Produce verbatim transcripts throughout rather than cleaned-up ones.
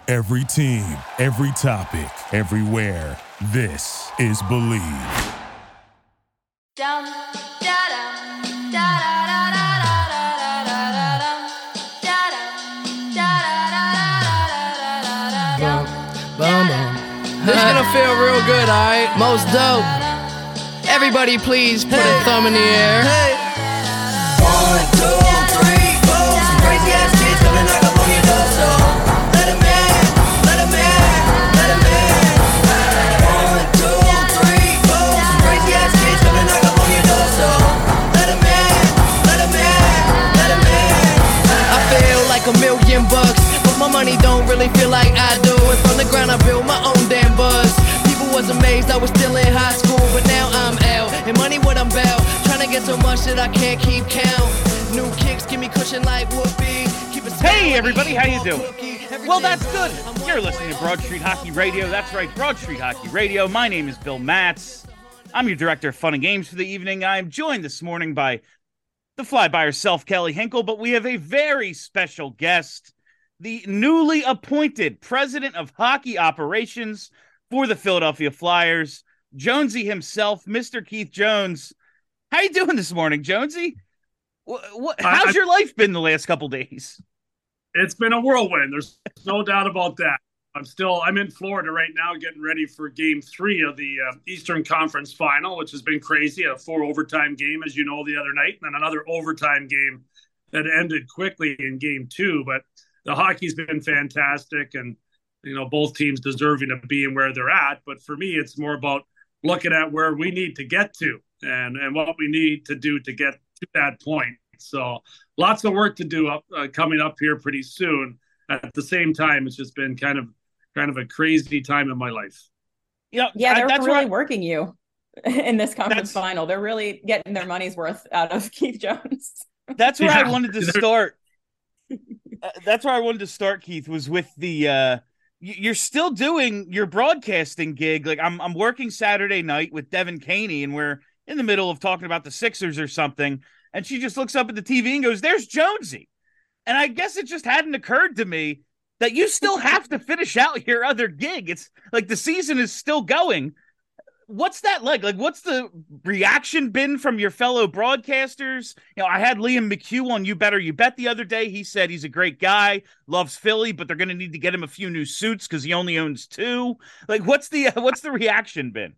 Every team, every topic, everywhere. This is Believe. Down, da da da da da da da da da da da. This is gonna feel real good, alright? Most dope. Everybody please put hey. a thumb in the air. Hey. One, two, three, four. Some crazy ass kids coming knock up on your door, so let them in, let them in, let them in. One, two, three, four. Some crazy ass kids coming knock up on your door, so let them in, let them in, let them in. I feel like a million bucks, but my money don't really feel like I do. And from the ground I built my own damn buzz. Was amazed I was still in high school, but now I'm out. And money what I'm about, trying to get so much that I can't keep count. New kicks give me cushion like whoopee. Keep it hey everybody, how you doing? Well, that's good. You're listening to Broad Street Hockey Radio. That's right, Broad Street Hockey Radio. My name is Bill Matz. I'm your director of fun and games for the evening. I'm joined this morning by the fly by herself, Kelly Hinkle, but we have a very special guest, the newly appointed president of hockey operations for the Philadelphia Flyers, Jonesy himself, Mister Keith Jones. How you doing this morning, Jonesy? What, what, how's I, your life been the last couple days? It's been a whirlwind. There's no doubt about that. I'm still, I'm in Florida right now getting ready for game three of the uh, Eastern Conference Final, which has been crazy. A four overtime game, as you know, the other night, and then another overtime game that ended quickly in game two. But the hockey's been fantastic, and you know, both teams deserving of being where they're at. But for me, it's more about looking at where we need to get to and, and what we need to do to get to that point. So lots of work to do up uh, coming up here pretty soon. At the same time, it's just been kind of kind of a crazy time in my life. You know, yeah, they're really working you in this conference final. They're really getting their money's worth out of Keith Jones. That's where yeah. I wanted to start. uh, that's where I wanted to start, Keith, was with the uh, – you're still doing your broadcasting gig. Like I'm I'm working Saturday night with Devin Caney, and we're in the middle of talking about the Sixers or something. And she just looks up at the T V and goes, "There's Jonesy." And I guess it just hadn't occurred to me that you still have to finish out your other gig. It's like the season is still going. What's that like? Like, what's the reaction been from your fellow broadcasters? You know, I had Liam McHugh on You Better You Bet the other day. He said he's a great guy, loves Philly, but they're going to need to get him a few new suits because he only owns two. Like, what's the uh, what's the reaction been?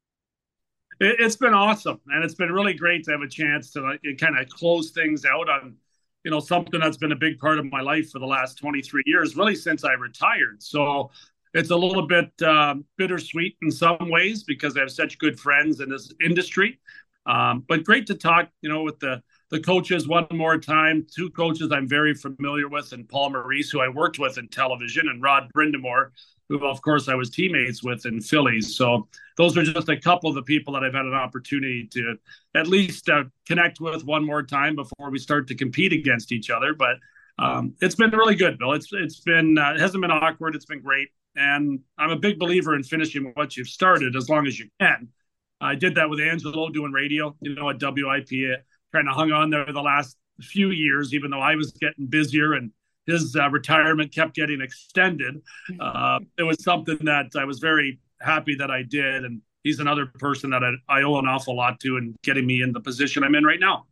It, it's been awesome, and it's been really great to have a chance to like, kind of close things out on, you know, something that's been a big part of my life for the last twenty-three years, really since I retired. So it's a little bit uh, bittersweet in some ways because I have such good friends in this industry. Um, but great to talk, you know, with the the coaches one more time. Two coaches I'm very familiar with, and Paul Maurice, who I worked with in television, and Rod Brindamore, who, of course, I was teammates with in Phillies. So those are just a couple of the people that I've had an opportunity to at least uh, connect with one more time before we start to compete against each other. But um, it's been really good, Bill. It's It's been, uh, it hasn't been awkward. It's been great. And I'm a big believer in finishing what you've started as long as you can. I did that with Angelo doing radio, you know, at W I P. Kind of hung on there the last few years, even though I was getting busier and his uh, retirement kept getting extended. Uh, it was something that I was very happy that I did. And he's another person that I, I owe an awful lot to in getting me in the position I'm in right now.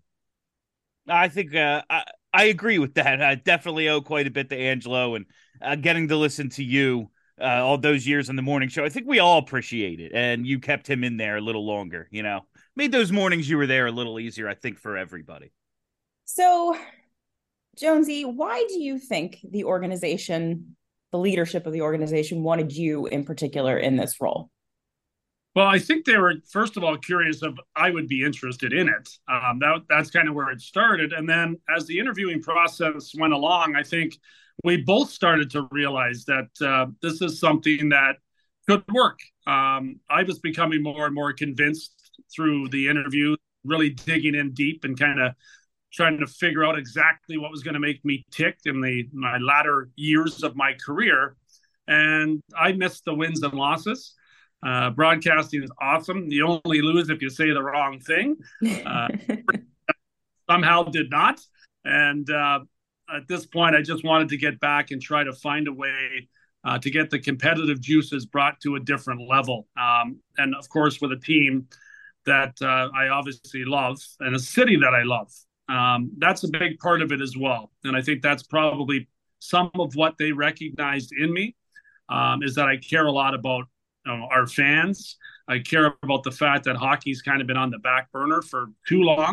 I think uh, I, I agree with that. I definitely owe quite a bit to Angelo, and uh, getting to listen to you Uh, all those years on the morning show. I think we all appreciate it. And you kept him in there a little longer, you know, made those mornings you were there a little easier, I think, for everybody. So, Jonesy, why do you think the organization, the leadership of the organization wanted you in particular in this role? Well, I think they were, first of all, curious if I would be interested in it. Um, that, that's kind of where it started. And then as the interviewing process went along, I think we both started to realize that uh, this is something that could work. Um, I was becoming more and more convinced through the interview, really digging in deep and kind of trying to figure out exactly what was going to make me tick in the my latter years of my career. And I missed the wins and losses. Uh, broadcasting is awesome. You only lose if you say the wrong thing. Uh, somehow did not. And uh, at this point, I just wanted to get back and try to find a way uh, to get the competitive juices brought to a different level. Um, and of course, with a team that uh, I obviously love and a city that I love. Um, that's a big part of it as well. And I think that's probably some of what they recognized in me, um, is that I care a lot about you know, our fans. I care about the fact that hockey's kind of been on the back burner for too long.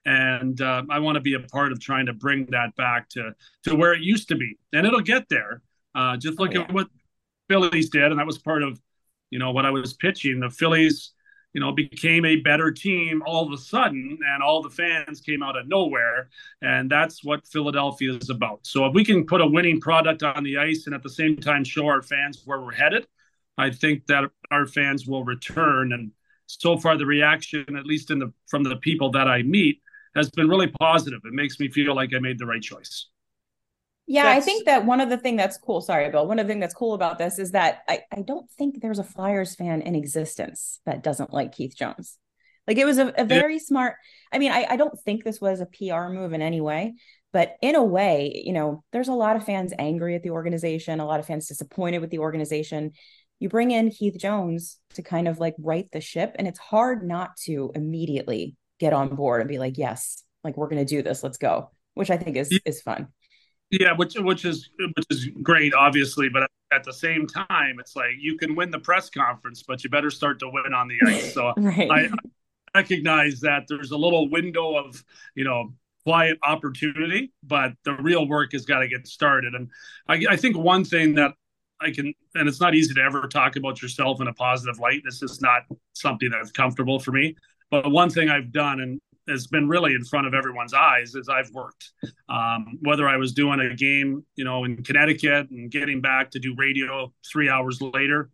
And uh, I want to be a part of trying to bring that back to, to where it used to be. And it'll get there. Uh, just look oh, yeah. at what Phillies did. And that was part of, you know, what I was pitching. The Phillies, you know, became a better team all of a sudden, and all the fans came out of nowhere. And that's what Philadelphia is about. So if we can put a winning product on the ice and at the same time show our fans where we're headed, I think that our fans will return. And so far, the reaction, at least in the from the people that I meet, has been really positive. It makes me feel like I made the right choice. Yeah, that's... I think that one of the things that's cool, sorry, Bill, one of the things that's cool about this is that I, I don't think there's a Flyers fan in existence that doesn't like Keith Jones. Like, it was a, a very yeah. smart, I mean, I, I don't think this was a P R move in any way, but in a way, you know, there's a lot of fans angry at the organization, a lot of fans disappointed with the organization. You bring in Keith Jones to kind of like right the ship, and it's hard not to immediately get on board and be like, yes, like, we're going to do this. Let's go, which I think is, is fun. Yeah, which which is which is great, obviously, but at the same time, it's like you can win the press conference, but you better start to win on the ice. So right. I, I recognize that there's a little window of, you know, quiet opportunity, but the real work has got to get started. And I, I think one thing that I can, and it's not easy to ever talk about yourself in a positive light. This is not something that's comfortable for me. But one thing I've done, and has been really in front of everyone's eyes, is I've worked. Um, whether I was doing a game, you know, in Connecticut and getting back to do radio three hours later,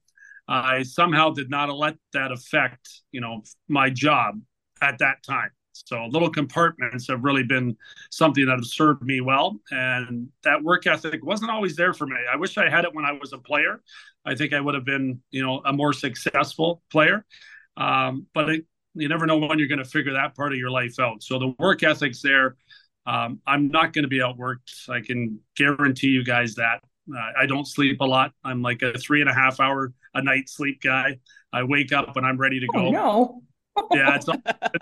I somehow did not let that affect, you know, my job at that time. So little compartments have really been something that have served me well. And that work ethic wasn't always there for me. I wish I had it when I was a player. I think I would have been, you know, a more successful player. Um, but it, you never know when you're going to figure that part of your life out. So the work ethic's there. Um, I'm not going to be outworked. I can guarantee you guys that. Uh, I don't sleep a lot. I'm like a three and a half hour a night sleep guy. I wake up when I'm ready to go. Oh, no. Yeah. It's,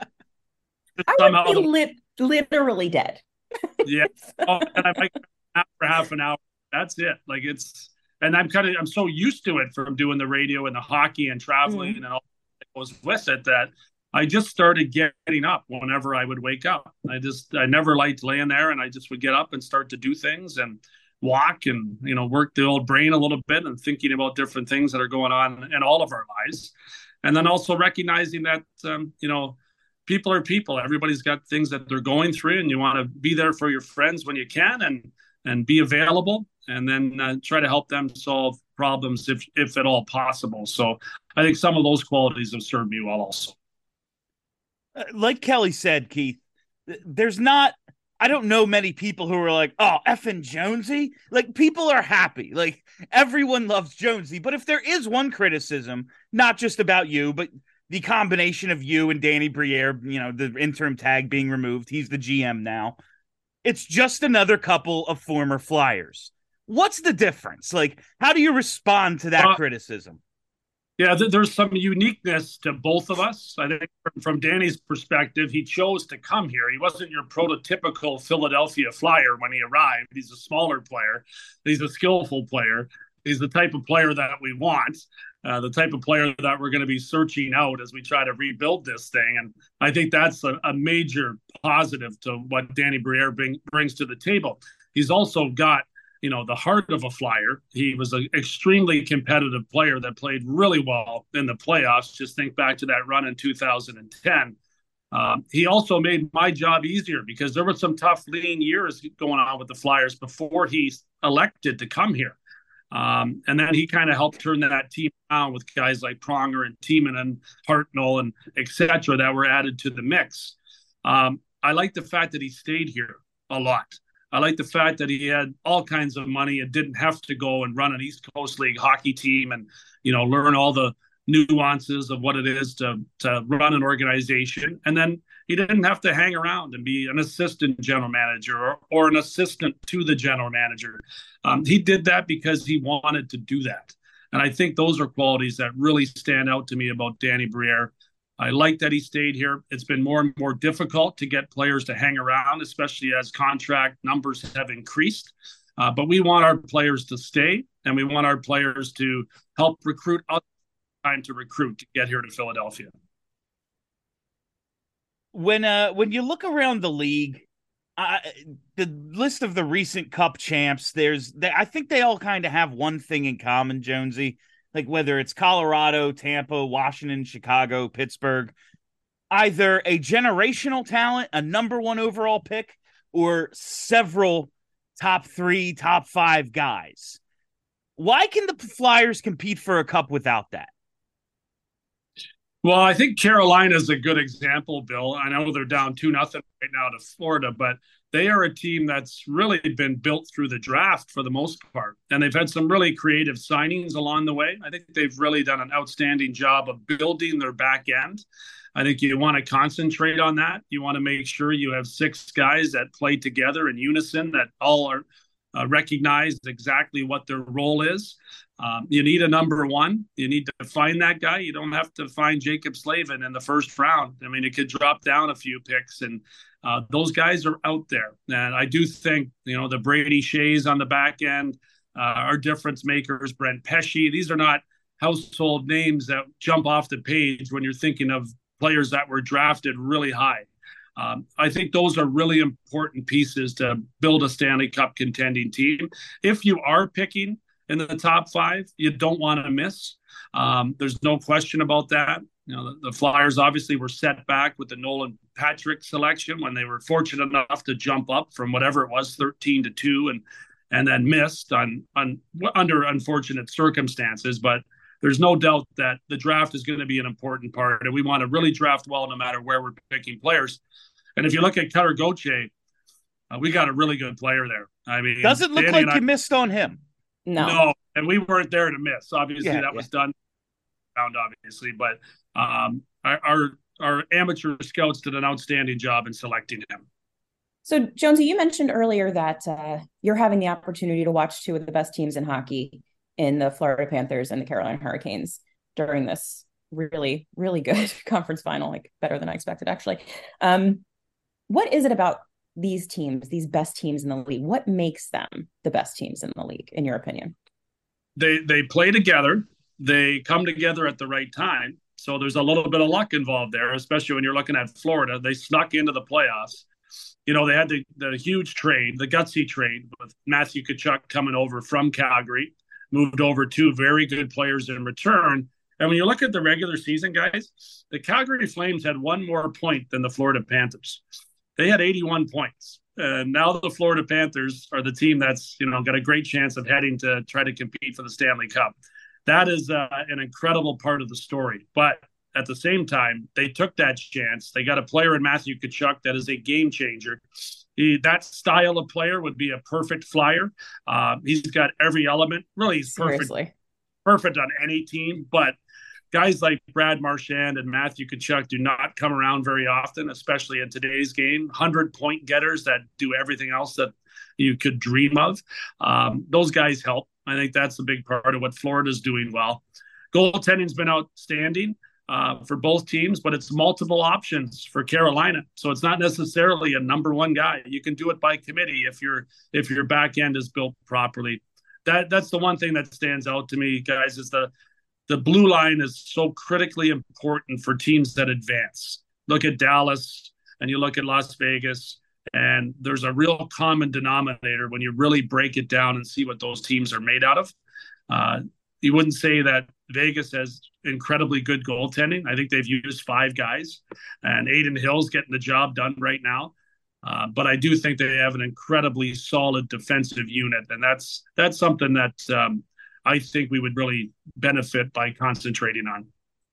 it's I somehow would be lit, literally dead. Yeah. Oh, and I might nap for half an hour. That's it. Like it's, and I'm kind of, I'm so used to it from doing the radio and the hockey and traveling mm-hmm. and all that goes with it that I just started getting up whenever I would wake up. I just, I never liked laying there, and I just would get up and start to do things and walk and, you know, work the old brain a little bit and thinking about different things that are going on in all of our lives. And then also recognizing that, um, you know, people are people. Everybody's got things that they're going through, and you want to be there for your friends when you can and, and be available, and then uh, try to help them solve problems if, if at all possible. So I think some of those qualities have served me well also. Like Kelly said, Keith, there's not, I don't know many people who are like, oh, effing Jonesy. Like, people are happy. Like, everyone loves Jonesy. But if there is one criticism, not just about you, but the combination of you and Danny Briere, you know, the interim tag being removed, he's the G M now. It's just another couple of former Flyers. What's the difference? Like, how do you respond to that uh, criticism? Yeah, there's some uniqueness to both of us. I think from Danny's perspective, he chose to come here. He wasn't your prototypical Philadelphia Flyer when he arrived. He's a smaller player. He's a skillful player. He's the type of player that we want, uh, the type of player that we're going to be searching out as we try to rebuild this thing. And I think that's a, a major positive to what Danny Briere bring, brings to the table. He's also got, you know, the heart of a Flyer. He was an extremely competitive player that played really well in the playoffs. Just think back to that run in two thousand ten. Um, he also made my job easier because there were some tough lean years going on with the Flyers before he elected to come here. Um, and then he kind of helped turn that team around with guys like Pronger and Tiemann and Hartnell and et cetera that were added to the mix. Um, I like the fact that he stayed here a lot. I like the fact that he had all kinds of money and didn't have to go and run an East Coast League hockey team and, you know, learn all the nuances of what it is to to run an organization. And then he didn't have to hang around and be an assistant general manager or, or an assistant to the general manager. Um, he did that because he wanted to do that. And I think those are qualities that really stand out to me about Danny Briere. I like that he stayed here. It's been more and more difficult to get players to hang around, especially as contract numbers have increased. Uh, but we want our players to stay, and we want our players to help recruit others trying to recruit to get here to Philadelphia. When uh when you look around the league, uh, the list of the recent Cup champs, there's they, I think they all kind of have one thing in common, Jonesy. Like whether it's Colorado, Tampa, Washington, Chicago, Pittsburgh, either a generational talent, a number one overall pick, or several top three, top five guys. Why can the Flyers compete for a cup without that? Well, I think Carolina is a good example, Bill. I know they're down two nothing right now to Florida, but they are a team that's really been built through the draft for the most part. And they've had some really creative signings along the way. I think they've really done an outstanding job of building their back end. I think you want to concentrate on that. You want to make sure you have six guys that play together in unison, that all are uh, recognize exactly what their role is. Um, you need a number one. You need to find that guy. You don't have to find Jacob Slavin in the first round. I mean, it could drop down a few picks, and uh, those guys are out there. And I do think, you know, the Brady Shays on the back end uh, are difference makers. Brent Pesce. These are not household names that jump off the page when you're thinking of players that were drafted really high. Um, I think those are really important pieces to build a Stanley Cup contending team. If you are picking in the top five, you don't want to miss. Um, there's no question about that. You know, the, the Flyers obviously were set back with the Nolan Patrick selection when they were fortunate enough to jump up from whatever it was, thirteen to two, and and then missed on on under unfortunate circumstances. But there's no doubt that the draft is going to be an important part, and we want to really draft well no matter where we're picking players. And if you look at Cutter Gauthier, uh, we got a really good player there. I mean, doesn't look Danny like I, you missed on him. No. No, and we weren't there to miss. Obviously, yeah, that yeah. was done, obviously. But um, our, our our amateur scouts did an outstanding job in selecting him. So, Jonesy, you mentioned earlier that uh, you're having the opportunity to watch two of the best teams in hockey in the Florida Panthers and the Carolina Hurricanes during this really, really good conference final, like better than I expected, actually. Um, what is it about these teams, these best teams in the league? What makes them the best teams in the league, in your opinion? They they play together. They come together at the right time. So there's a little bit of luck involved there, especially when you're looking at Florida. They snuck into the playoffs. You know, they had the, the huge trade, the gutsy trade with Matthew Tkachuk coming over from Calgary, moved over two very good players in return. And when you look at the regular season, guys, the Calgary Flames had one more point than the Florida Panthers. They had eighty-one points. And now the Florida Panthers are the team that's, you know, got a great chance of heading to try to compete for the Stanley Cup. That is uh, an incredible part of the story. But at the same time, they took that chance. They got a player in Matthew Tkachuk that is a game changer. He, that style of player would be a perfect Flyer. Uh, he's got every element. Really, he's perfect, Seriously. perfect on any team. But guys like Brad Marchand and Matthew Tkachuk do not come around very often, especially in today's game. one hundred point getters that do everything else that you could dream of. Um, those guys help. I think that's a big part of what Florida's doing well. Goaltending's been outstanding uh, for both teams, but it's multiple options for Carolina. So it's not necessarily a number one guy. You can do it by committee if your if your back end is built properly. That that's the one thing that stands out to me, guys, is the the blue line is so critically important for teams that advance. Look at Dallas and you look at Las Vegas, and there's a real common denominator when you really break it down and see what those teams are made out of. Uh, you wouldn't say that Vegas has incredibly good goaltending. I think they've used five guys, and Aiden Hill's getting the job done right now. Uh, but I do think they have an incredibly solid defensive unit, and that's that's something that um, I think we would really benefit by concentrating on.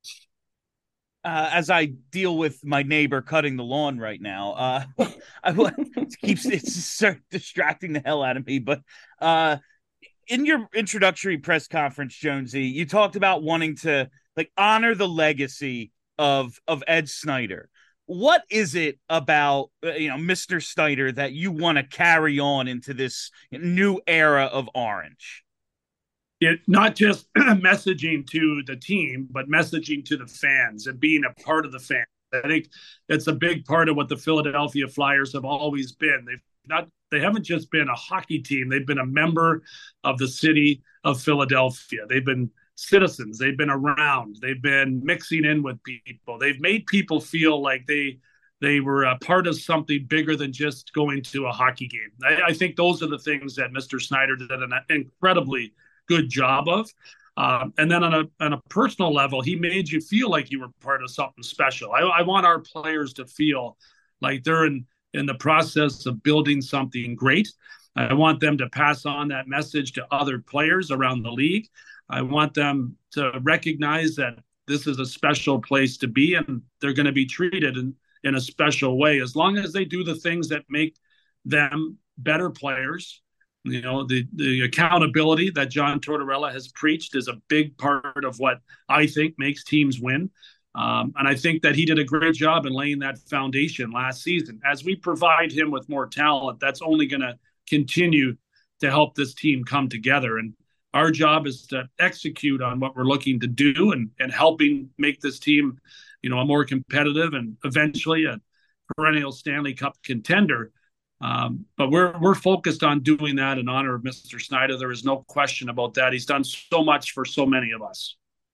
Uh, as I deal with my neighbor cutting the lawn right now, uh, I, it keeps it's distracting the hell out of me. But uh, in your introductory press conference, Jonesy, you talked about wanting to like honor the legacy of of Ed Snider. What is it about uh, you know Mister Snider that you want to carry on into this new era of Orange? It not just messaging to the team, but messaging to the fans and being a part of the fans. I think that's a big part of what the Philadelphia Flyers have always been. They've not they haven't just been a hockey team. They've been a member of the city of Philadelphia. They've been citizens. They've been around. They've been mixing in with people. They've made people feel like they they were a part of something bigger than just going to a hockey game. I, I think those are the things that Mister Snider did an incredibly good job of. Um, and then on a on a personal level, he made you feel like you were part of something special. I, I want our players to feel like they're in, in the process of building something great. I want them to pass on that message to other players around the league. I want them to recognize that this is a special place to be, and they're going to be treated in, in a special way as long as they do the things that make them better players. You know, the, the accountability that John Tortorella has preached is a big part of what I think makes teams win. Um, and I think that he did a great job in laying that foundation last season. As we provide him with more talent, that's only going to continue to help this team come together. And our job is to execute on what we're looking to do and, and helping make this team, you know, a more competitive and eventually a perennial Stanley Cup contender. Um, but we're we're focused on doing that in honor of Mister Snider. There is no question about that. He's done so much for so many of us.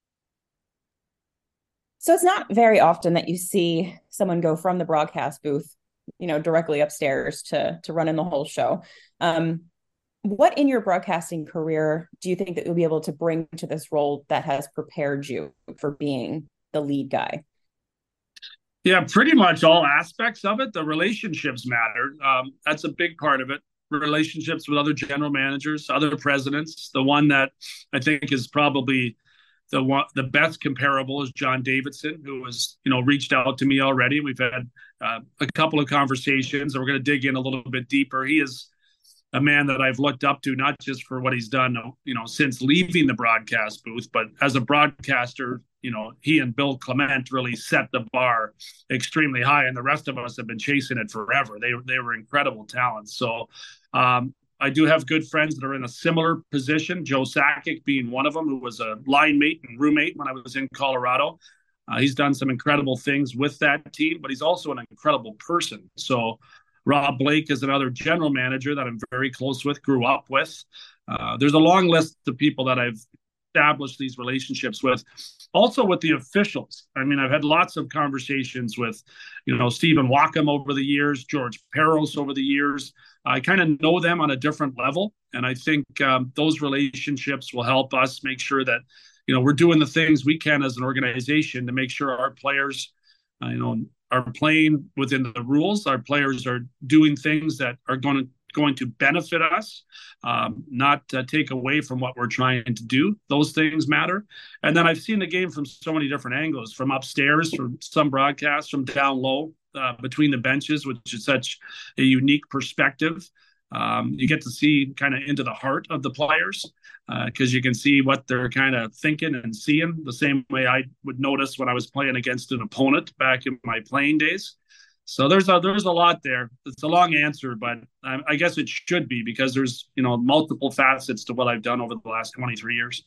So it's not very often that you see someone go from the broadcast booth, you know, directly upstairs to to run in the whole show. Um, what in your broadcasting career do you think that you'll be able to bring to this role that has prepared you for being the lead guy? Yeah, pretty much all aspects of it. The relationships matter. Um, that's a big part of it. Relationships with other general managers, other presidents. The one that I think is probably the one, the best comparable is John Davidson, who has, you know, reached out to me already. We've had uh, a couple of conversations, and we're going to dig in a little bit deeper. He is a man that I've looked up to, not just for what he's done, you know, since leaving the broadcast booth, but as a broadcaster. You know, he and Bill Clement really set the bar extremely high, and the rest of us have been chasing it forever. They they were incredible talents. So um, I do have good friends that are in a similar position. Joe Sakic being one of them, who was a line mate and roommate when I was in Colorado. Uh, he's done some incredible things with that team, but he's also an incredible person. So Rob Blake is another general manager that I'm very close with, grew up with. Uh, there's a long list of people that I've established these relationships with. Also with the officials. I mean, I've had lots of conversations with, you know, Stephen Wackham over the years, George Peros over the years. I kind of know them on a different level. And I think um, those relationships will help us make sure that, you know, we're doing the things we can as an organization to make sure our players, uh, you know, are playing within the rules. Our players are doing things that are going to going to benefit us, um, not uh, take away from what we're trying to do. Those things matter. And then I've seen the game from so many different angles, from upstairs, from some broadcasts, from down low, uh, between the benches, which is such a unique perspective. Um, you get to see kind of into the heart of the players because uh, you can see what they're kind of thinking and seeing the same way I would notice when I was playing against an opponent back in my playing days. So there's a there's a lot there. It's a long answer, but I, I guess it should be because there's, you know, multiple facets to what I've done over the last twenty-three years.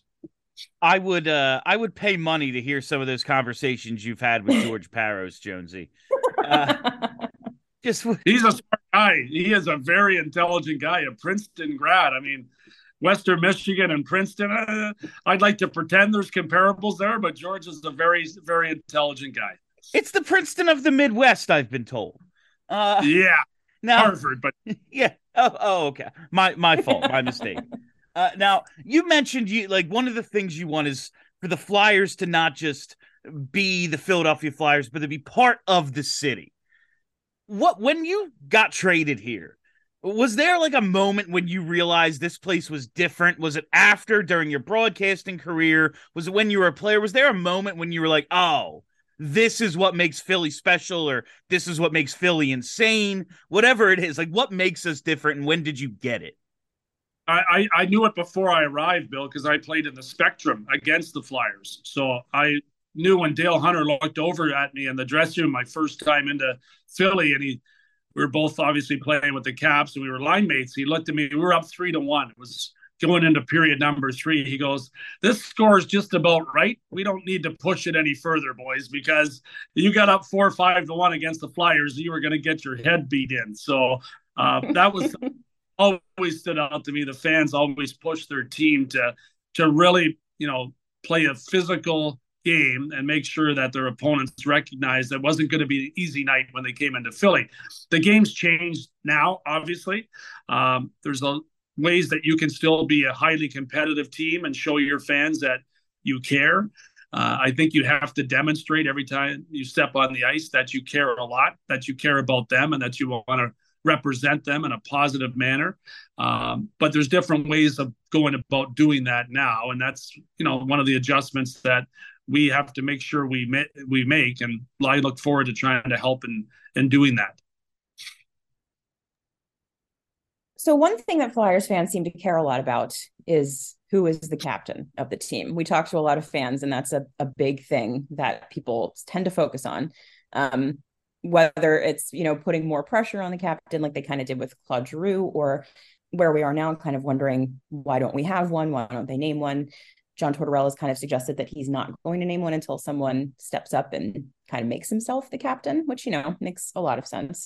I would uh, I would pay money to hear some of those conversations you've had with George Peros, Jonesy. Uh, just he's a smart guy. He is a very intelligent guy, a Princeton grad. I mean, Western Michigan and Princeton. Uh, I'd like to pretend there's comparables there, but George is a very very intelligent guy. It's the Princeton of the Midwest, I've been told. Uh, yeah, now, Harvard, but yeah. Oh, oh, okay. My my fault. My mistake. Uh, now, you mentioned you like one of the things you want is for the Flyers to not just be the Philadelphia Flyers, but to be part of the city. What when you got traded here, was there like a moment when you realized this place was different? Was it after, during your broadcasting career? Was it when you were a player? Was there a moment when you were like, oh, this is what makes Philly special, or this is what makes Philly insane, whatever it is? Like, what makes us different, and when did you get it? I, I, I knew it before I arrived, Bill, because I played in the Spectrum against the Flyers. So I knew when Dale Hunter looked over at me in the dressing room my first time into Philly, and he we were both obviously playing with the Caps, and we were line mates. He looked at me. We were up three to one. It was going into period number three. He goes, "This score is just about right. We don't need to push it any further, boys, because you got up four or five to one against the Flyers. You were going to get your head beat in." So uh, that was always stood out to me. The fans always push their team to to really, you know, play a physical game and make sure that their opponents recognize that it wasn't going to be an easy night when they came into Philly. The game's changed now, obviously. Um, there's a, ways that you can still be a highly competitive team and show your fans that you care. Uh, I think you have to demonstrate every time you step on the ice that you care a lot, that you care about them, and that you want to represent them in a positive manner. Um, but there's different ways of going about doing that now. And that's, you know, one of the adjustments that we have to make sure we ma- we make. And I look forward to trying to help in, in doing that. So one thing that Flyers fans seem to care a lot about is who is the captain of the team. We talk to a lot of fans, and that's a, a big thing that people tend to focus on. Um, whether it's, you know, putting more pressure on the captain like they kind of did with Claude Giroux, or where we are now kind of wondering, why don't we have one? Why don't they name one? John Tortorella has kind of suggested that he's not going to name one until someone steps up and kind of makes himself the captain, which, you know, makes a lot of sense.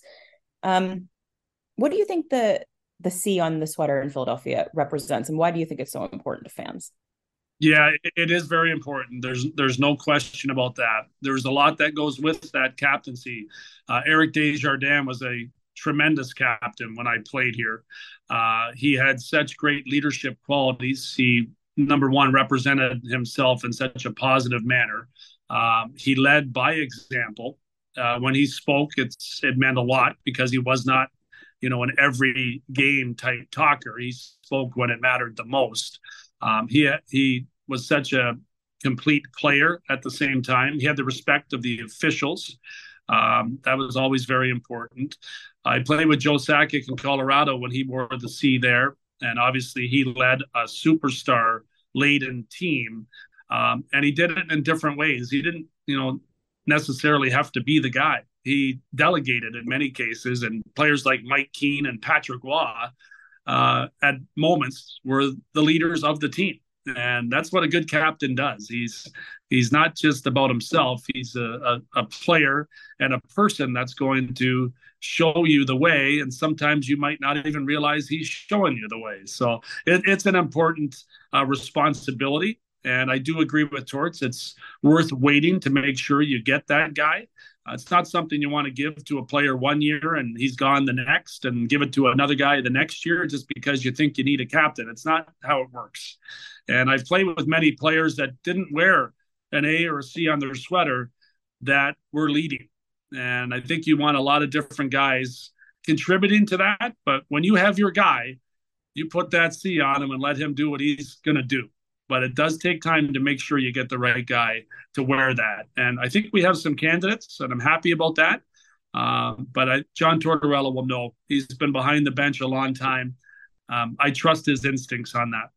Um, what do you think the the C on the sweater in Philadelphia represents, and why do you think it's so important to fans? Yeah, it is very important. There's there's no question about that. There's a lot that goes with that captaincy. Uh, Eric Desjardins was a tremendous captain when I played here. Uh, he had such great leadership qualities. He, number one, represented himself in such a positive manner. Um, he led by example. Uh, when he spoke, it's it meant a lot, because he was not, you know, an every game type talker. He spoke when it mattered the most. Um, he he was such a complete player at the same time. He had the respect of the officials. Um, that was always very important. I played with Joe Sakic in Colorado when he wore the C there, and obviously he led a superstar-laden team, um, and he did it in different ways. He didn't, you know, necessarily have to be the guy. He delegated in many cases, and players like Mike Keane and Patrick Waugh uh, at moments were the leaders of the team. And that's what a good captain does. He's he's not just about himself. He's a, a, a player and a person that's going to show you the way. And sometimes you might not even realize he's showing you the way. So it, it's an important uh, responsibility. And I do agree with Torts. It's worth waiting to make sure you get that guy. Uh, it's not something you want to give to a player one year and he's gone the next, and give it to another guy the next year just because you think you need a captain. It's not how it works. And I've played with many players that didn't wear an A or a C on their sweater that were leading. And I think you want a lot of different guys contributing to that. But when you have your guy, you put that C on him and let him do what he's going to do. But it does take time to make sure you get the right guy to wear that. And I think we have some candidates, and I'm happy about that. Um, but I, John Tortorella will know. He's been behind the bench a long time. Um, I trust his instincts on that.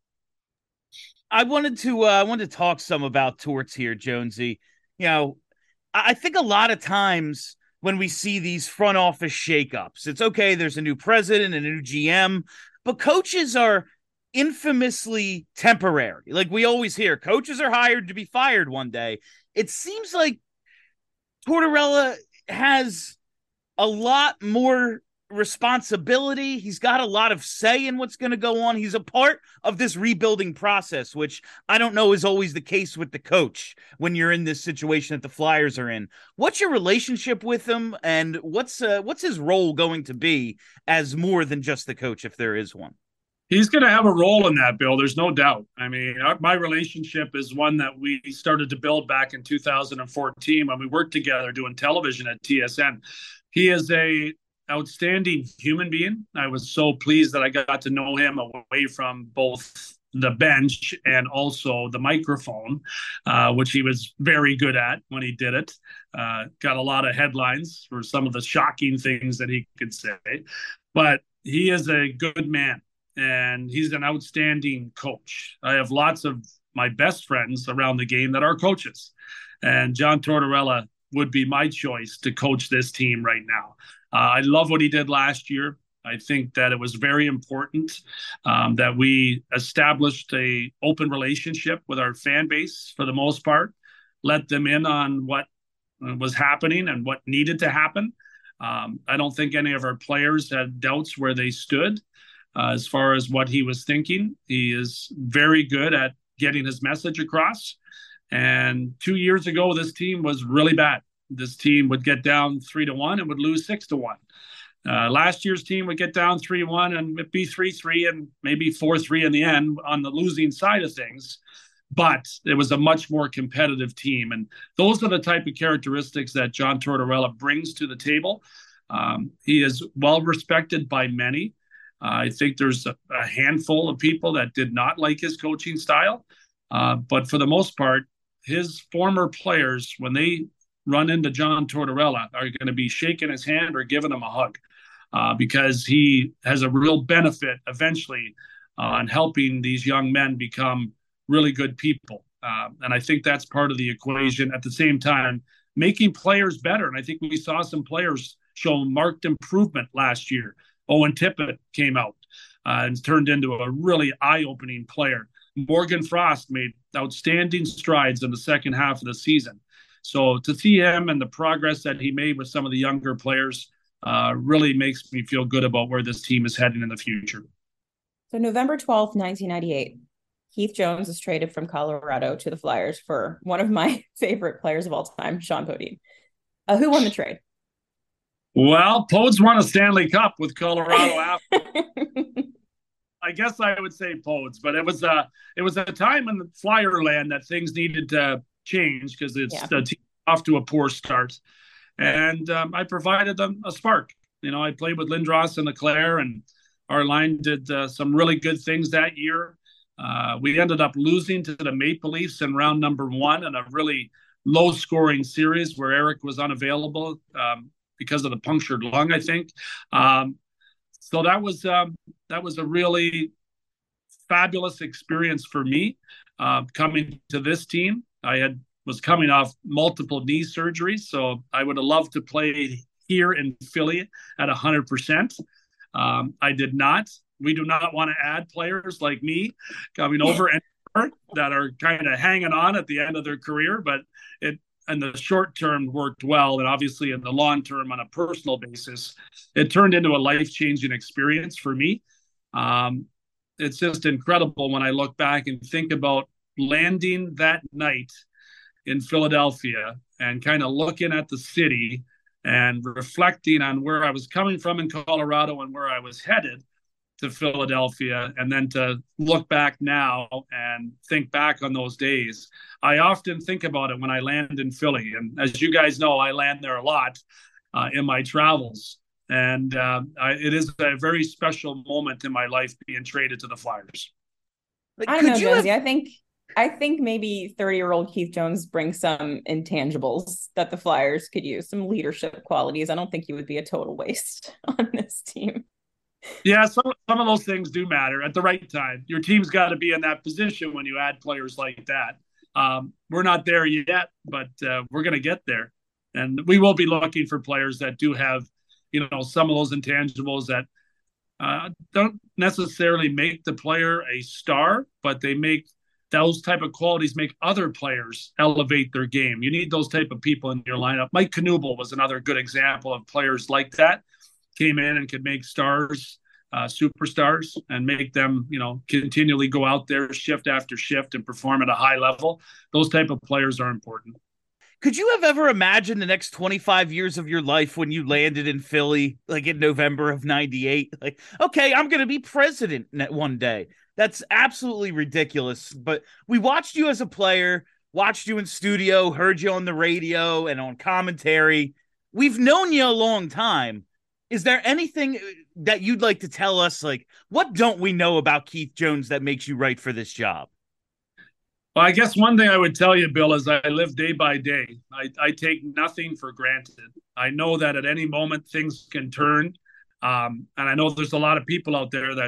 I wanted to uh, I wanted to talk some about Torts here, Jonesy. You know, I think a lot of times when we see these front office shakeups, it's okay, there's a new president and a new G M, but coaches are infamously temporary. Like we always hear, coaches are hired to be fired one day. It seems like Tortorella has a lot more responsibility. He's got a lot of say in what's going to go on. He's a part of this rebuilding process, which I don't know is always the case with the coach when you're in this situation that the Flyers are in. What's your relationship with him, and what's uh, what's his role going to be as more than just the coach, if there is one? He's going to have a role in that, Bill. There's no doubt. I mean, our, my relationship is one that we started to build back in two thousand fourteen when we worked together doing television at T S N. He is a outstanding human being. I was so pleased that I got to know him away from both the bench and also the microphone, uh, which he was very good at when he did it. Uh, got a lot of headlines for some of the shocking things that he could say. But he is a good man. and he's an outstanding coach. I have lots of my best friends around the game that are coaches, and John Tortorella would be my choice to coach this team right now. Uh, I love what he did last year. I think that it was very important um, that we established a open relationship with our fan base for the most part, let them in on what was happening and what needed to happen. Um, I don't think any of our players had doubts where they stood uh, as far as what he was thinking. He is very good at getting his message across. And two years ago, this team was really bad. This team would get down three to one and would lose six to one. Uh, last year's team would get down three one and it'd be three three and maybe four three in the end on the losing side of things. But it was a much more competitive team. And those are the type of characteristics that John Tortorella brings to the table. Um, he is well respected by many. Uh, I think there's a, a handful of people that did not like his coaching style. Uh, but for the most part, his former players, when they run into John Tortorella, are going to be shaking his hand or giving him a hug. Uh, because he has a real benefit eventually on helping these young men become really good people. Uh, and I think that's part of the equation. At the same time, making players better. And I think we saw some players show marked improvement last year. Owen Tippett came out uh, and turned into a really eye-opening player. Morgan Frost made outstanding strides in the second half of the season. So to see him and the progress that he made with some of the younger players Uh, really makes me feel good about where this team is heading in the future. So November twelfth, nineteen ninety-eight, Keith Jones is traded from Colorado to the Flyers for one of my favorite players of all time, Sean Podine. Uh, who won the trade? Well, Podes won a Stanley Cup with Colorado after. I guess I would say Podes, but it was a, it was a time in the Flyer land that things needed to change because it's yeah. the team off to a poor start. And um, I provided them a spark. You know, I played with Lindros and Leclerc, and our line did uh, some really good things that year. Uh, we ended up losing to the Maple Leafs in round number one in a really low-scoring series where Eric was unavailable um, because of the punctured lung, I think. Um, so that was um, that was a really fabulous experience for me uh, coming to this team. I had was coming off multiple knee surgeries, so I would have loved to play here in Philly at one hundred percent. Um, I did not. We do not want to add players like me coming over and that are kind of hanging on at the end of their career, but it in the short term worked well, and obviously in the long term on a personal basis, it turned into a life-changing experience for me. Um, it's just incredible when I look back and think about landing that night in Philadelphia and kind of looking at the city and reflecting on where I was coming from in Colorado and where I was headed to Philadelphia, and then to look back now and think back on those days. I often think about it when I land in Philly. And as you guys know, I land there a lot uh, in my travels. And uh, I, it is a very special moment in my life being traded to the Flyers. Like, I don't know, Jonesy. Have... I think I think maybe thirty-year-old Keith Jones brings some intangibles that the Flyers could use, some leadership qualities. I don't think he would be a total waste on this team. Yeah, some, some of those things do matter at the right time. Your team's got to be in that position when you add players like that. Um, we're not there yet, but uh, we're going to get there. And we will be looking for players that do have, you know, some of those intangibles that uh, don't necessarily make the player a star, but they make those type of qualities make other players elevate their game. You need those type of people in your lineup. Mike Knuble was another good example of players like that. Came in and could make stars, uh, superstars, and make them, you know, continually go out there shift after shift and perform at a high level. Those type of players are important. Could you have ever imagined the next twenty-five years of your life when you landed in Philly, like in November of ninety-eight? Like, okay, I'm going to be president one day. That's absolutely ridiculous. But we watched you as a player, watched you in studio, heard you on the radio and on commentary. We've known you a long time. Is there anything that you'd like to tell us? Like, what don't we know about Keith Jones that makes you right for this job? Well, I guess one thing I would tell you, Bill, is I live day by day. I, I take nothing for granted. I know that at any moment things can turn. Um, and I know there's a lot of people out there that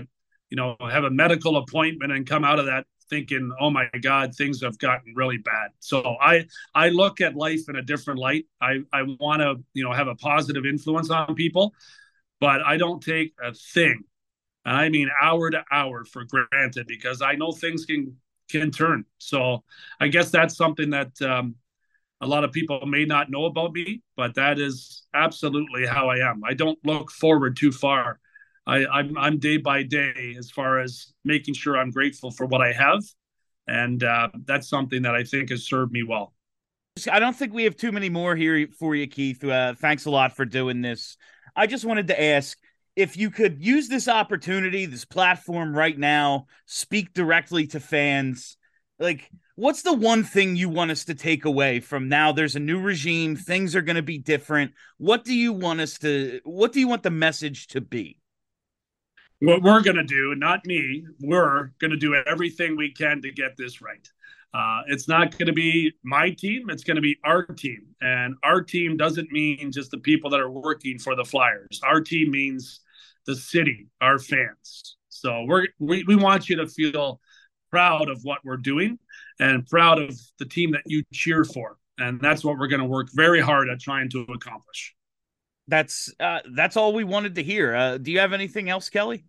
you know, have a medical appointment and come out of that thinking, oh my God, things have gotten really bad. So I I look at life in a different light. I, I want to, you know, have a positive influence on people, but I don't take a thing, and I mean hour to hour, for granted, because I know things can can turn. So I guess that's something that um, a lot of people may not know about me, but that is absolutely how I am. I don't look forward too far. I, I'm I'm day by day as far as making sure I'm grateful for what I have, and uh, that's something that I think has served me well. I don't think we have too many more here for you, Keith. Uh, thanks a lot for doing this. I just wanted to ask if you could use this opportunity, this platform right now, speak directly to fans. Like, what's the one thing you want us to take away from now? There's a new regime. Things are going to be different. What do you want us to, what do you want the message to be? What we're going to do, not me, we're going to do everything we can to get this right. Uh, it's not going to be my team. It's going to be our team. And our team doesn't mean just the people that are working for the Flyers. Our team means the city, our fans. So we're, we, we want you to feel proud of what we're doing and proud of the team that you cheer for. And that's what we're going to work very hard at trying to accomplish. That's uh, that's all we wanted to hear. Uh, do you have anything else, Kelly?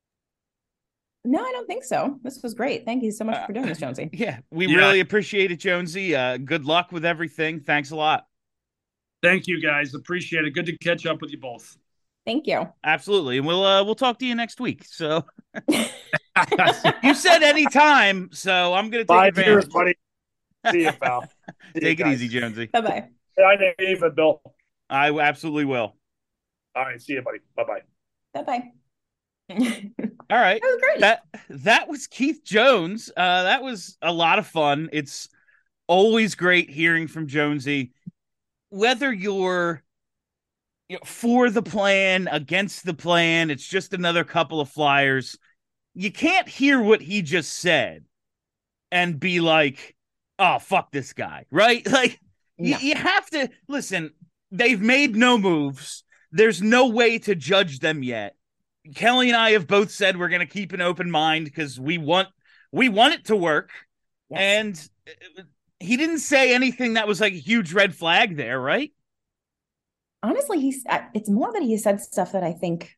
No, I don't think so. This was great. Thank you so much for doing this, Jonesy. Uh, yeah, we yeah. really appreciate it, Jonesy. Uh, good luck with everything. Thanks a lot. Thank you, guys. Appreciate it. Good to catch up with you both. Thank you. Absolutely. And we'll uh, we'll talk to you next week. So you said anytime, so I'm going to take Five advantage. years, buddy. See you, pal. See Take you it guys. easy, Jonesy. Bye-bye. I didn't even, Bill. I absolutely will. All right. See you, buddy. Bye-bye. Bye-bye. All right. That was great. That that was Keith Jones. Uh, that was a lot of fun. It's always great hearing from Jonesy. Whether you're, you know, for the plan, against the plan, it's just another couple of Flyers. You can't hear what he just said and be like, oh, fuck this guy, right? Like, no. y- you have to, listen, they've made no moves. There's no way to judge them yet. Kelly and I have both said we're going to keep an open mind because we want we want it to work. Yes. And he didn't say anything that was like a huge red flag there, right? Honestly, he's it's more that he said stuff that I think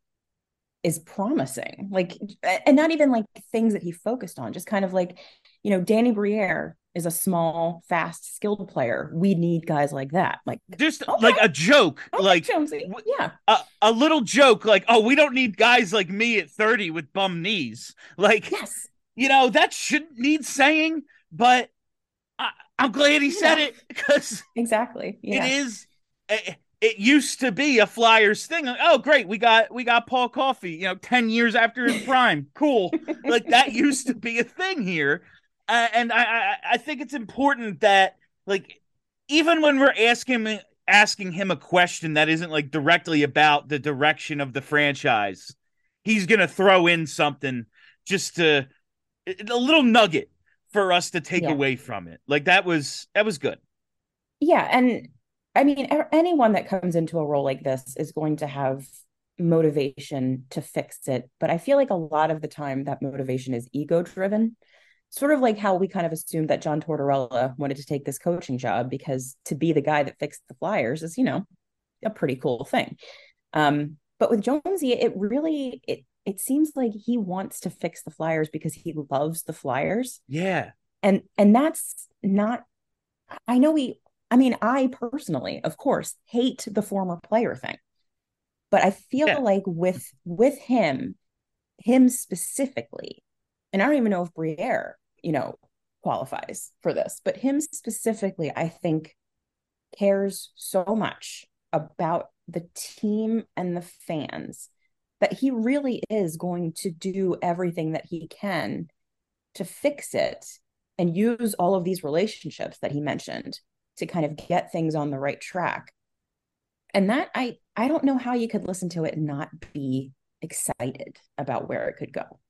is promising, like, and not even like things that he focused on, just kind of like, you know, Danny Briere is a small, fast, skilled player. We need guys like that. Like, just okay. like a joke, okay, like Jonesy. Yeah, a, a little joke, like, oh, we don't need guys like me at thirty with bum knees. Like, yes, you know, that shouldn't need saying, but I, I'm glad he you said know. it because exactly. Yeah. It is. It, it used to be a Flyers thing. Like, oh, great, we got we got Paul Coffey. You know, ten years after his prime, cool. Like that used to be a thing here. Uh, and I, I, I think it's important that, like, even when we're asking asking him a question that isn't like directly about the direction of the franchise, he's gonna throw in something just to a little nugget for us to take yeah. away from it. Like that was that was good. Yeah, and I mean, anyone that comes into a role like this is going to have motivation to fix it, but I feel like a lot of the time that motivation is ego driven. Sort of like how we kind of assumed that John Tortorella wanted to take this coaching job because to be the guy that fixed the Flyers is, you know, a pretty cool thing. Um, but with Jonesy, it really, it it seems like he wants to fix the Flyers because he loves the Flyers. Yeah. And and that's not, I know he, I mean, I personally, of course, hate the former player thing. But I feel yeah. like with with him, him specifically, and I don't even know if Briere, you know, qualifies for this, but him specifically, I think, cares so much about the team and the fans that he really is going to do everything that he can to fix it and use all of these relationships that he mentioned to kind of get things on the right track. And that I, I don't know how you could listen to it and not be excited about where it could go.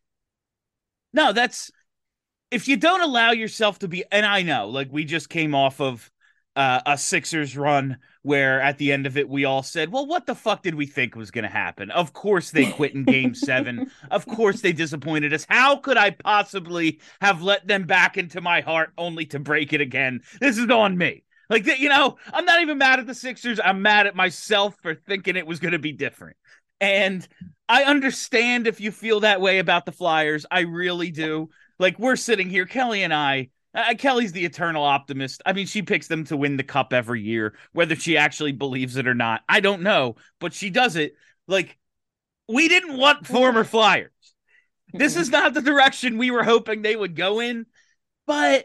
No, that's, if you don't allow yourself to be, and I know, like we just came off of uh, a Sixers run where at the end of it, we all said, well, what the fuck did we think was going to happen? Of course they quit in game seven. Of course they disappointed us. How could I possibly have let them back into my heart only to break it again? This is on me. Like, you know, I'm not even mad at the Sixers. I'm mad at myself for thinking it was going to be different. And I understand if you feel that way about the Flyers. I really do. Like, we're sitting here, Kelly and I, Uh, Kelly's the eternal optimist. I mean, she picks them to win the cup every year, whether she actually believes it or not. I don't know, but she does it. Like, we didn't want former Flyers. This is not the direction we were hoping they would go in, but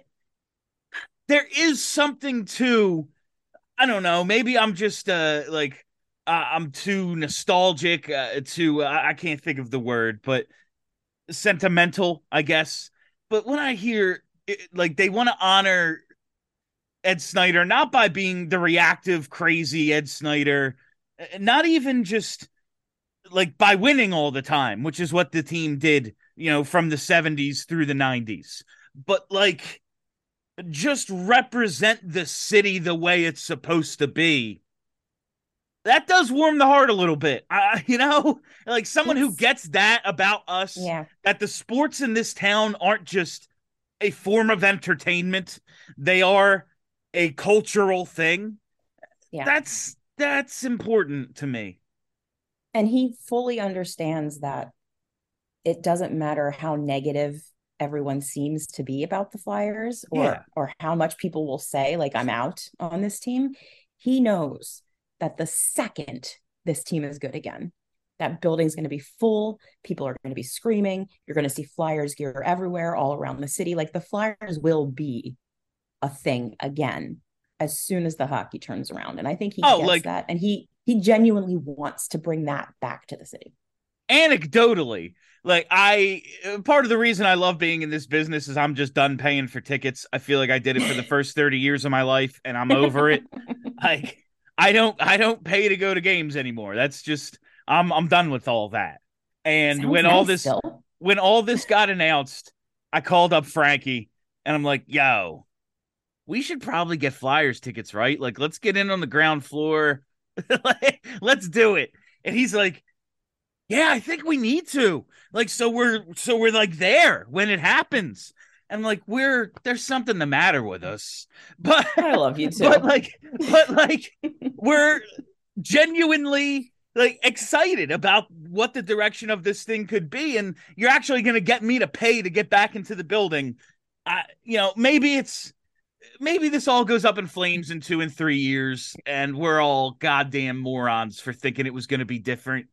there is something to, I don't know, maybe I'm just uh, like, uh, I'm too nostalgic, uh, to, uh, I can't think of the word, but sentimental, I guess. But when I hear, It, like, they want to honor Ed Snyder, not by being the reactive, crazy Ed Snyder, not even just like by winning all the time, which is what the team did, you know, from the seventies through the nineties, but like just represent the city the way it's supposed to be. That does warm the heart a little bit. Uh, you know, like someone it's, who gets that about us, yeah. that the sports in this town aren't just a form of entertainment. They are a cultural thing. Yeah. That's, that's important to me. And he fully understands that it doesn't matter how negative everyone seems to be about the Flyers or, yeah. or how much people will say, like, I'm out on this team. He knows that the second this team is good again, that building's going to be full. People are going to be screaming. You're going to see Flyers gear everywhere, all around the city. Like, the Flyers will be a thing again as soon as the hockey turns around. And I think he oh, gets like, that. And he, he genuinely wants to bring that back to the city. Anecdotally, like, I, part of the reason I love being in this business is I'm just done paying for tickets. I feel like I did it for the first thirty years of my life and I'm over it. Like, I don't, I don't pay to go to games anymore. That's just, I'm I'm done with all that. And Sounds when nice all this still. when all this got announced, I called up Frankie and I'm like, yo, we should probably get Flyers tickets, right? Like, let's get in on the ground floor. Let's do it. And he's like, yeah, I think we need to. Like, so we're so we're like there when it happens. And like, we're there's something the matter with us. But I love you too. But like, but like we're genuinely like excited about what the direction of this thing could be. And you're actually going to get me to pay to get back into the building. I, you know, maybe it's, maybe this all goes up in flames in two and three years and we're all goddamn morons for thinking it was going to be different.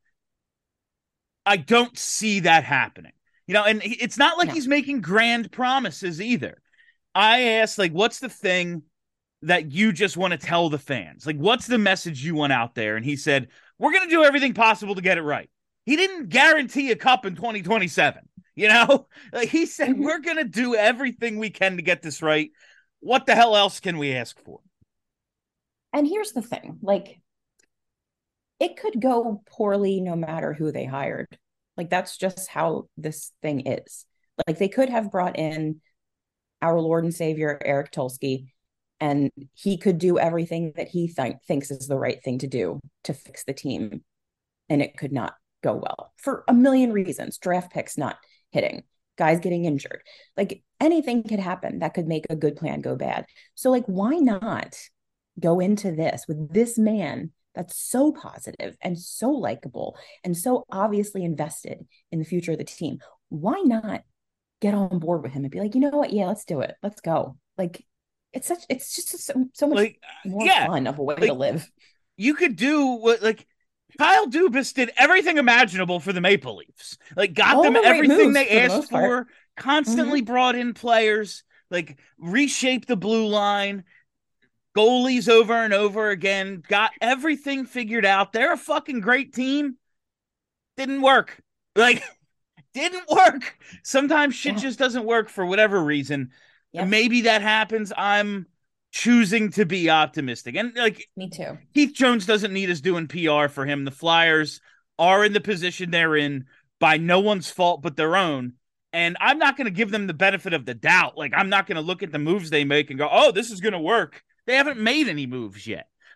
I don't see that happening, you know, and it's not like no. he's making grand promises either. I asked, like, what's the thing that you just want to tell the fans? Like, what's the message you want out there? And he said, we're going to do everything possible to get it right. He didn't guarantee a cup in twenty twenty-seven. You know, like he said, mm-hmm. we're going to do everything we can to get this right. What the hell else can we ask for? And here's the thing, like, it could go poorly no matter who they hired. Like, that's just how this thing is. Like, they could have brought in our Lord and Savior, Eric Tulsky, and he could do everything that he th- thinks is the right thing to do to fix the team. And it could not go well for a million reasons. Draft picks not hitting, guys getting injured. Like, anything could happen that could make a good plan go bad. So, like, why not go into this with this man that's so positive and so likable and so obviously invested in the future of the team? Why not get on board with him and be like, you know what? Yeah, let's do it. Let's go. Like, it's such, it's just so, so much like, more yeah, fun of a way like, to live. You could do what, like, Kyle Dubas did everything imaginable for the Maple Leafs. Like, got All them the right everything they moves, for the asked most for, part. constantly Mm-hmm. brought in players, like, reshaped the blue line, goalies over and over again, got everything figured out. They're a fucking great team. Didn't work. Like, didn't work. Sometimes shit Yeah. just doesn't work for whatever reason. Yep. Maybe that happens. I'm choosing to be optimistic. And like, Me too. Keith Jones doesn't need us doing P R for him. The Flyers are in the position they're in by no one's fault but their own. And I'm not going to give them the benefit of the doubt. Like, I'm not going to look at the moves they make and go, oh, this is going to work. They haven't made any moves yet.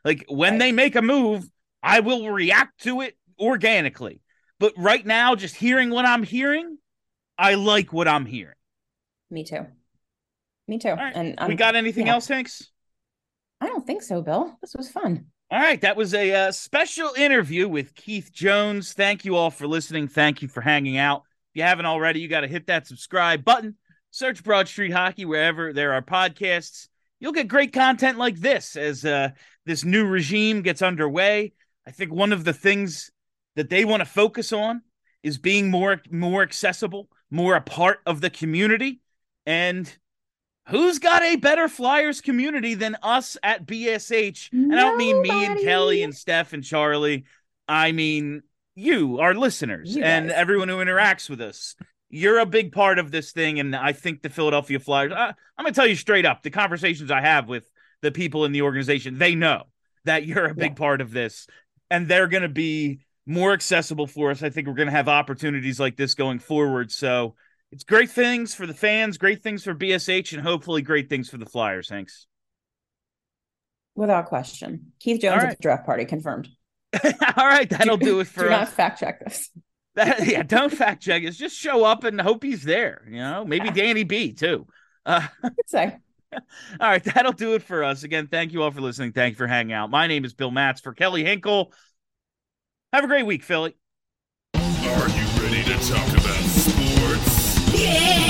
Like when right. they make a move, I will react to it organically. But right now, just hearing what I'm hearing, I like what I'm hearing. Me too. Me too. Right. And I'm, we got anything yeah. else, Hanks? I don't think so, Bill. This was fun. All right. That was a uh, special interview with Keith Jones. Thank you all for listening. Thank you for hanging out. If you haven't already, you got to hit that subscribe button. Search Broad Street Hockey wherever there are podcasts. You'll get great content like this as uh, this new regime gets underway. I think one of the things that they want to focus on is being more, more accessible, more a part of the community. And who's got a better Flyers community than us at B S H? And I don't mean me and Kelly and Steph and Charlie. I mean you, our listeners, you and everyone who interacts with us. You're a big part of this thing, and I think the Philadelphia Flyers, I, I'm going to tell you straight up, the conversations I have with the people in the organization, they know that you're a big yeah. part of this, and they're going to be more accessible for us. I think we're going to have opportunities like this going forward, so it's great things for the fans, great things for B S H, and hopefully great things for the Flyers. Thanks. Without question. Keith Jones right. at the draft party, confirmed. All right, that'll do, do it for do us. Do not fact check this. That, yeah, don't fact check it. Just show up and hope he's there. You know, maybe Danny B too. Uh, say. All right, that'll do it for us. Again, thank you all for listening. Thank you for hanging out. My name is Bill Matz for Kelly Hinkle. Have a great week, Philly. Are you ready to talk about sports? Yeah!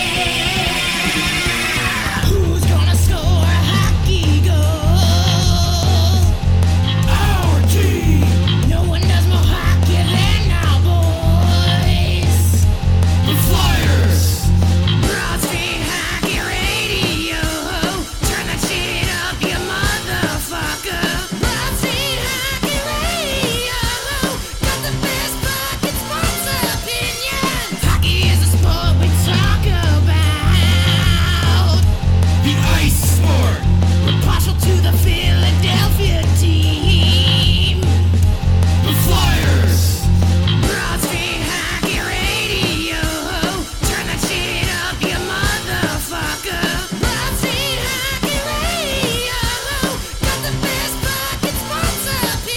Who's gonna score a hockey goal? Our team! No one does more hockey than our boys. The Flyers! Broad Street Hockey Radio. Turn that shit up, you motherfucker. Broad Street Hockey Radio. Got the best fucking sports opinions. Hockey is a sport we talk about. The ice sport. We're partial to the Philadelphia team. The Flyers. Broad Street Hockey Radio. Turn that shit up, you motherfucker. Broad Street Hockey Radio. Got the best fucking sports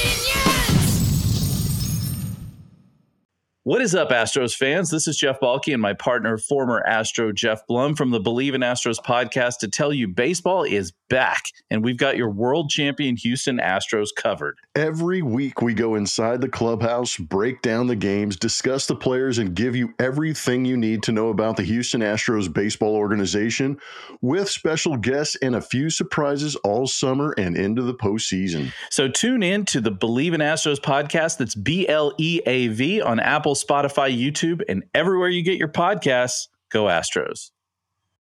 opinions. What is up, Astros fans? This is Jeff Balke and my partner, former Astro Jeff Blum from the Believe in Astros podcast to tell you baseball is back, and we've got your world champion Houston Astros covered. Every week we go inside the clubhouse, break down the games, discuss the players, and give you everything you need to know about the Houston Astros baseball organization with special guests and a few surprises all summer and into the postseason. So tune in to the Believe in Astros podcast. That's B L E A V on Apple, Spotify, YouTube, and everywhere you get your podcasts. Go Astros.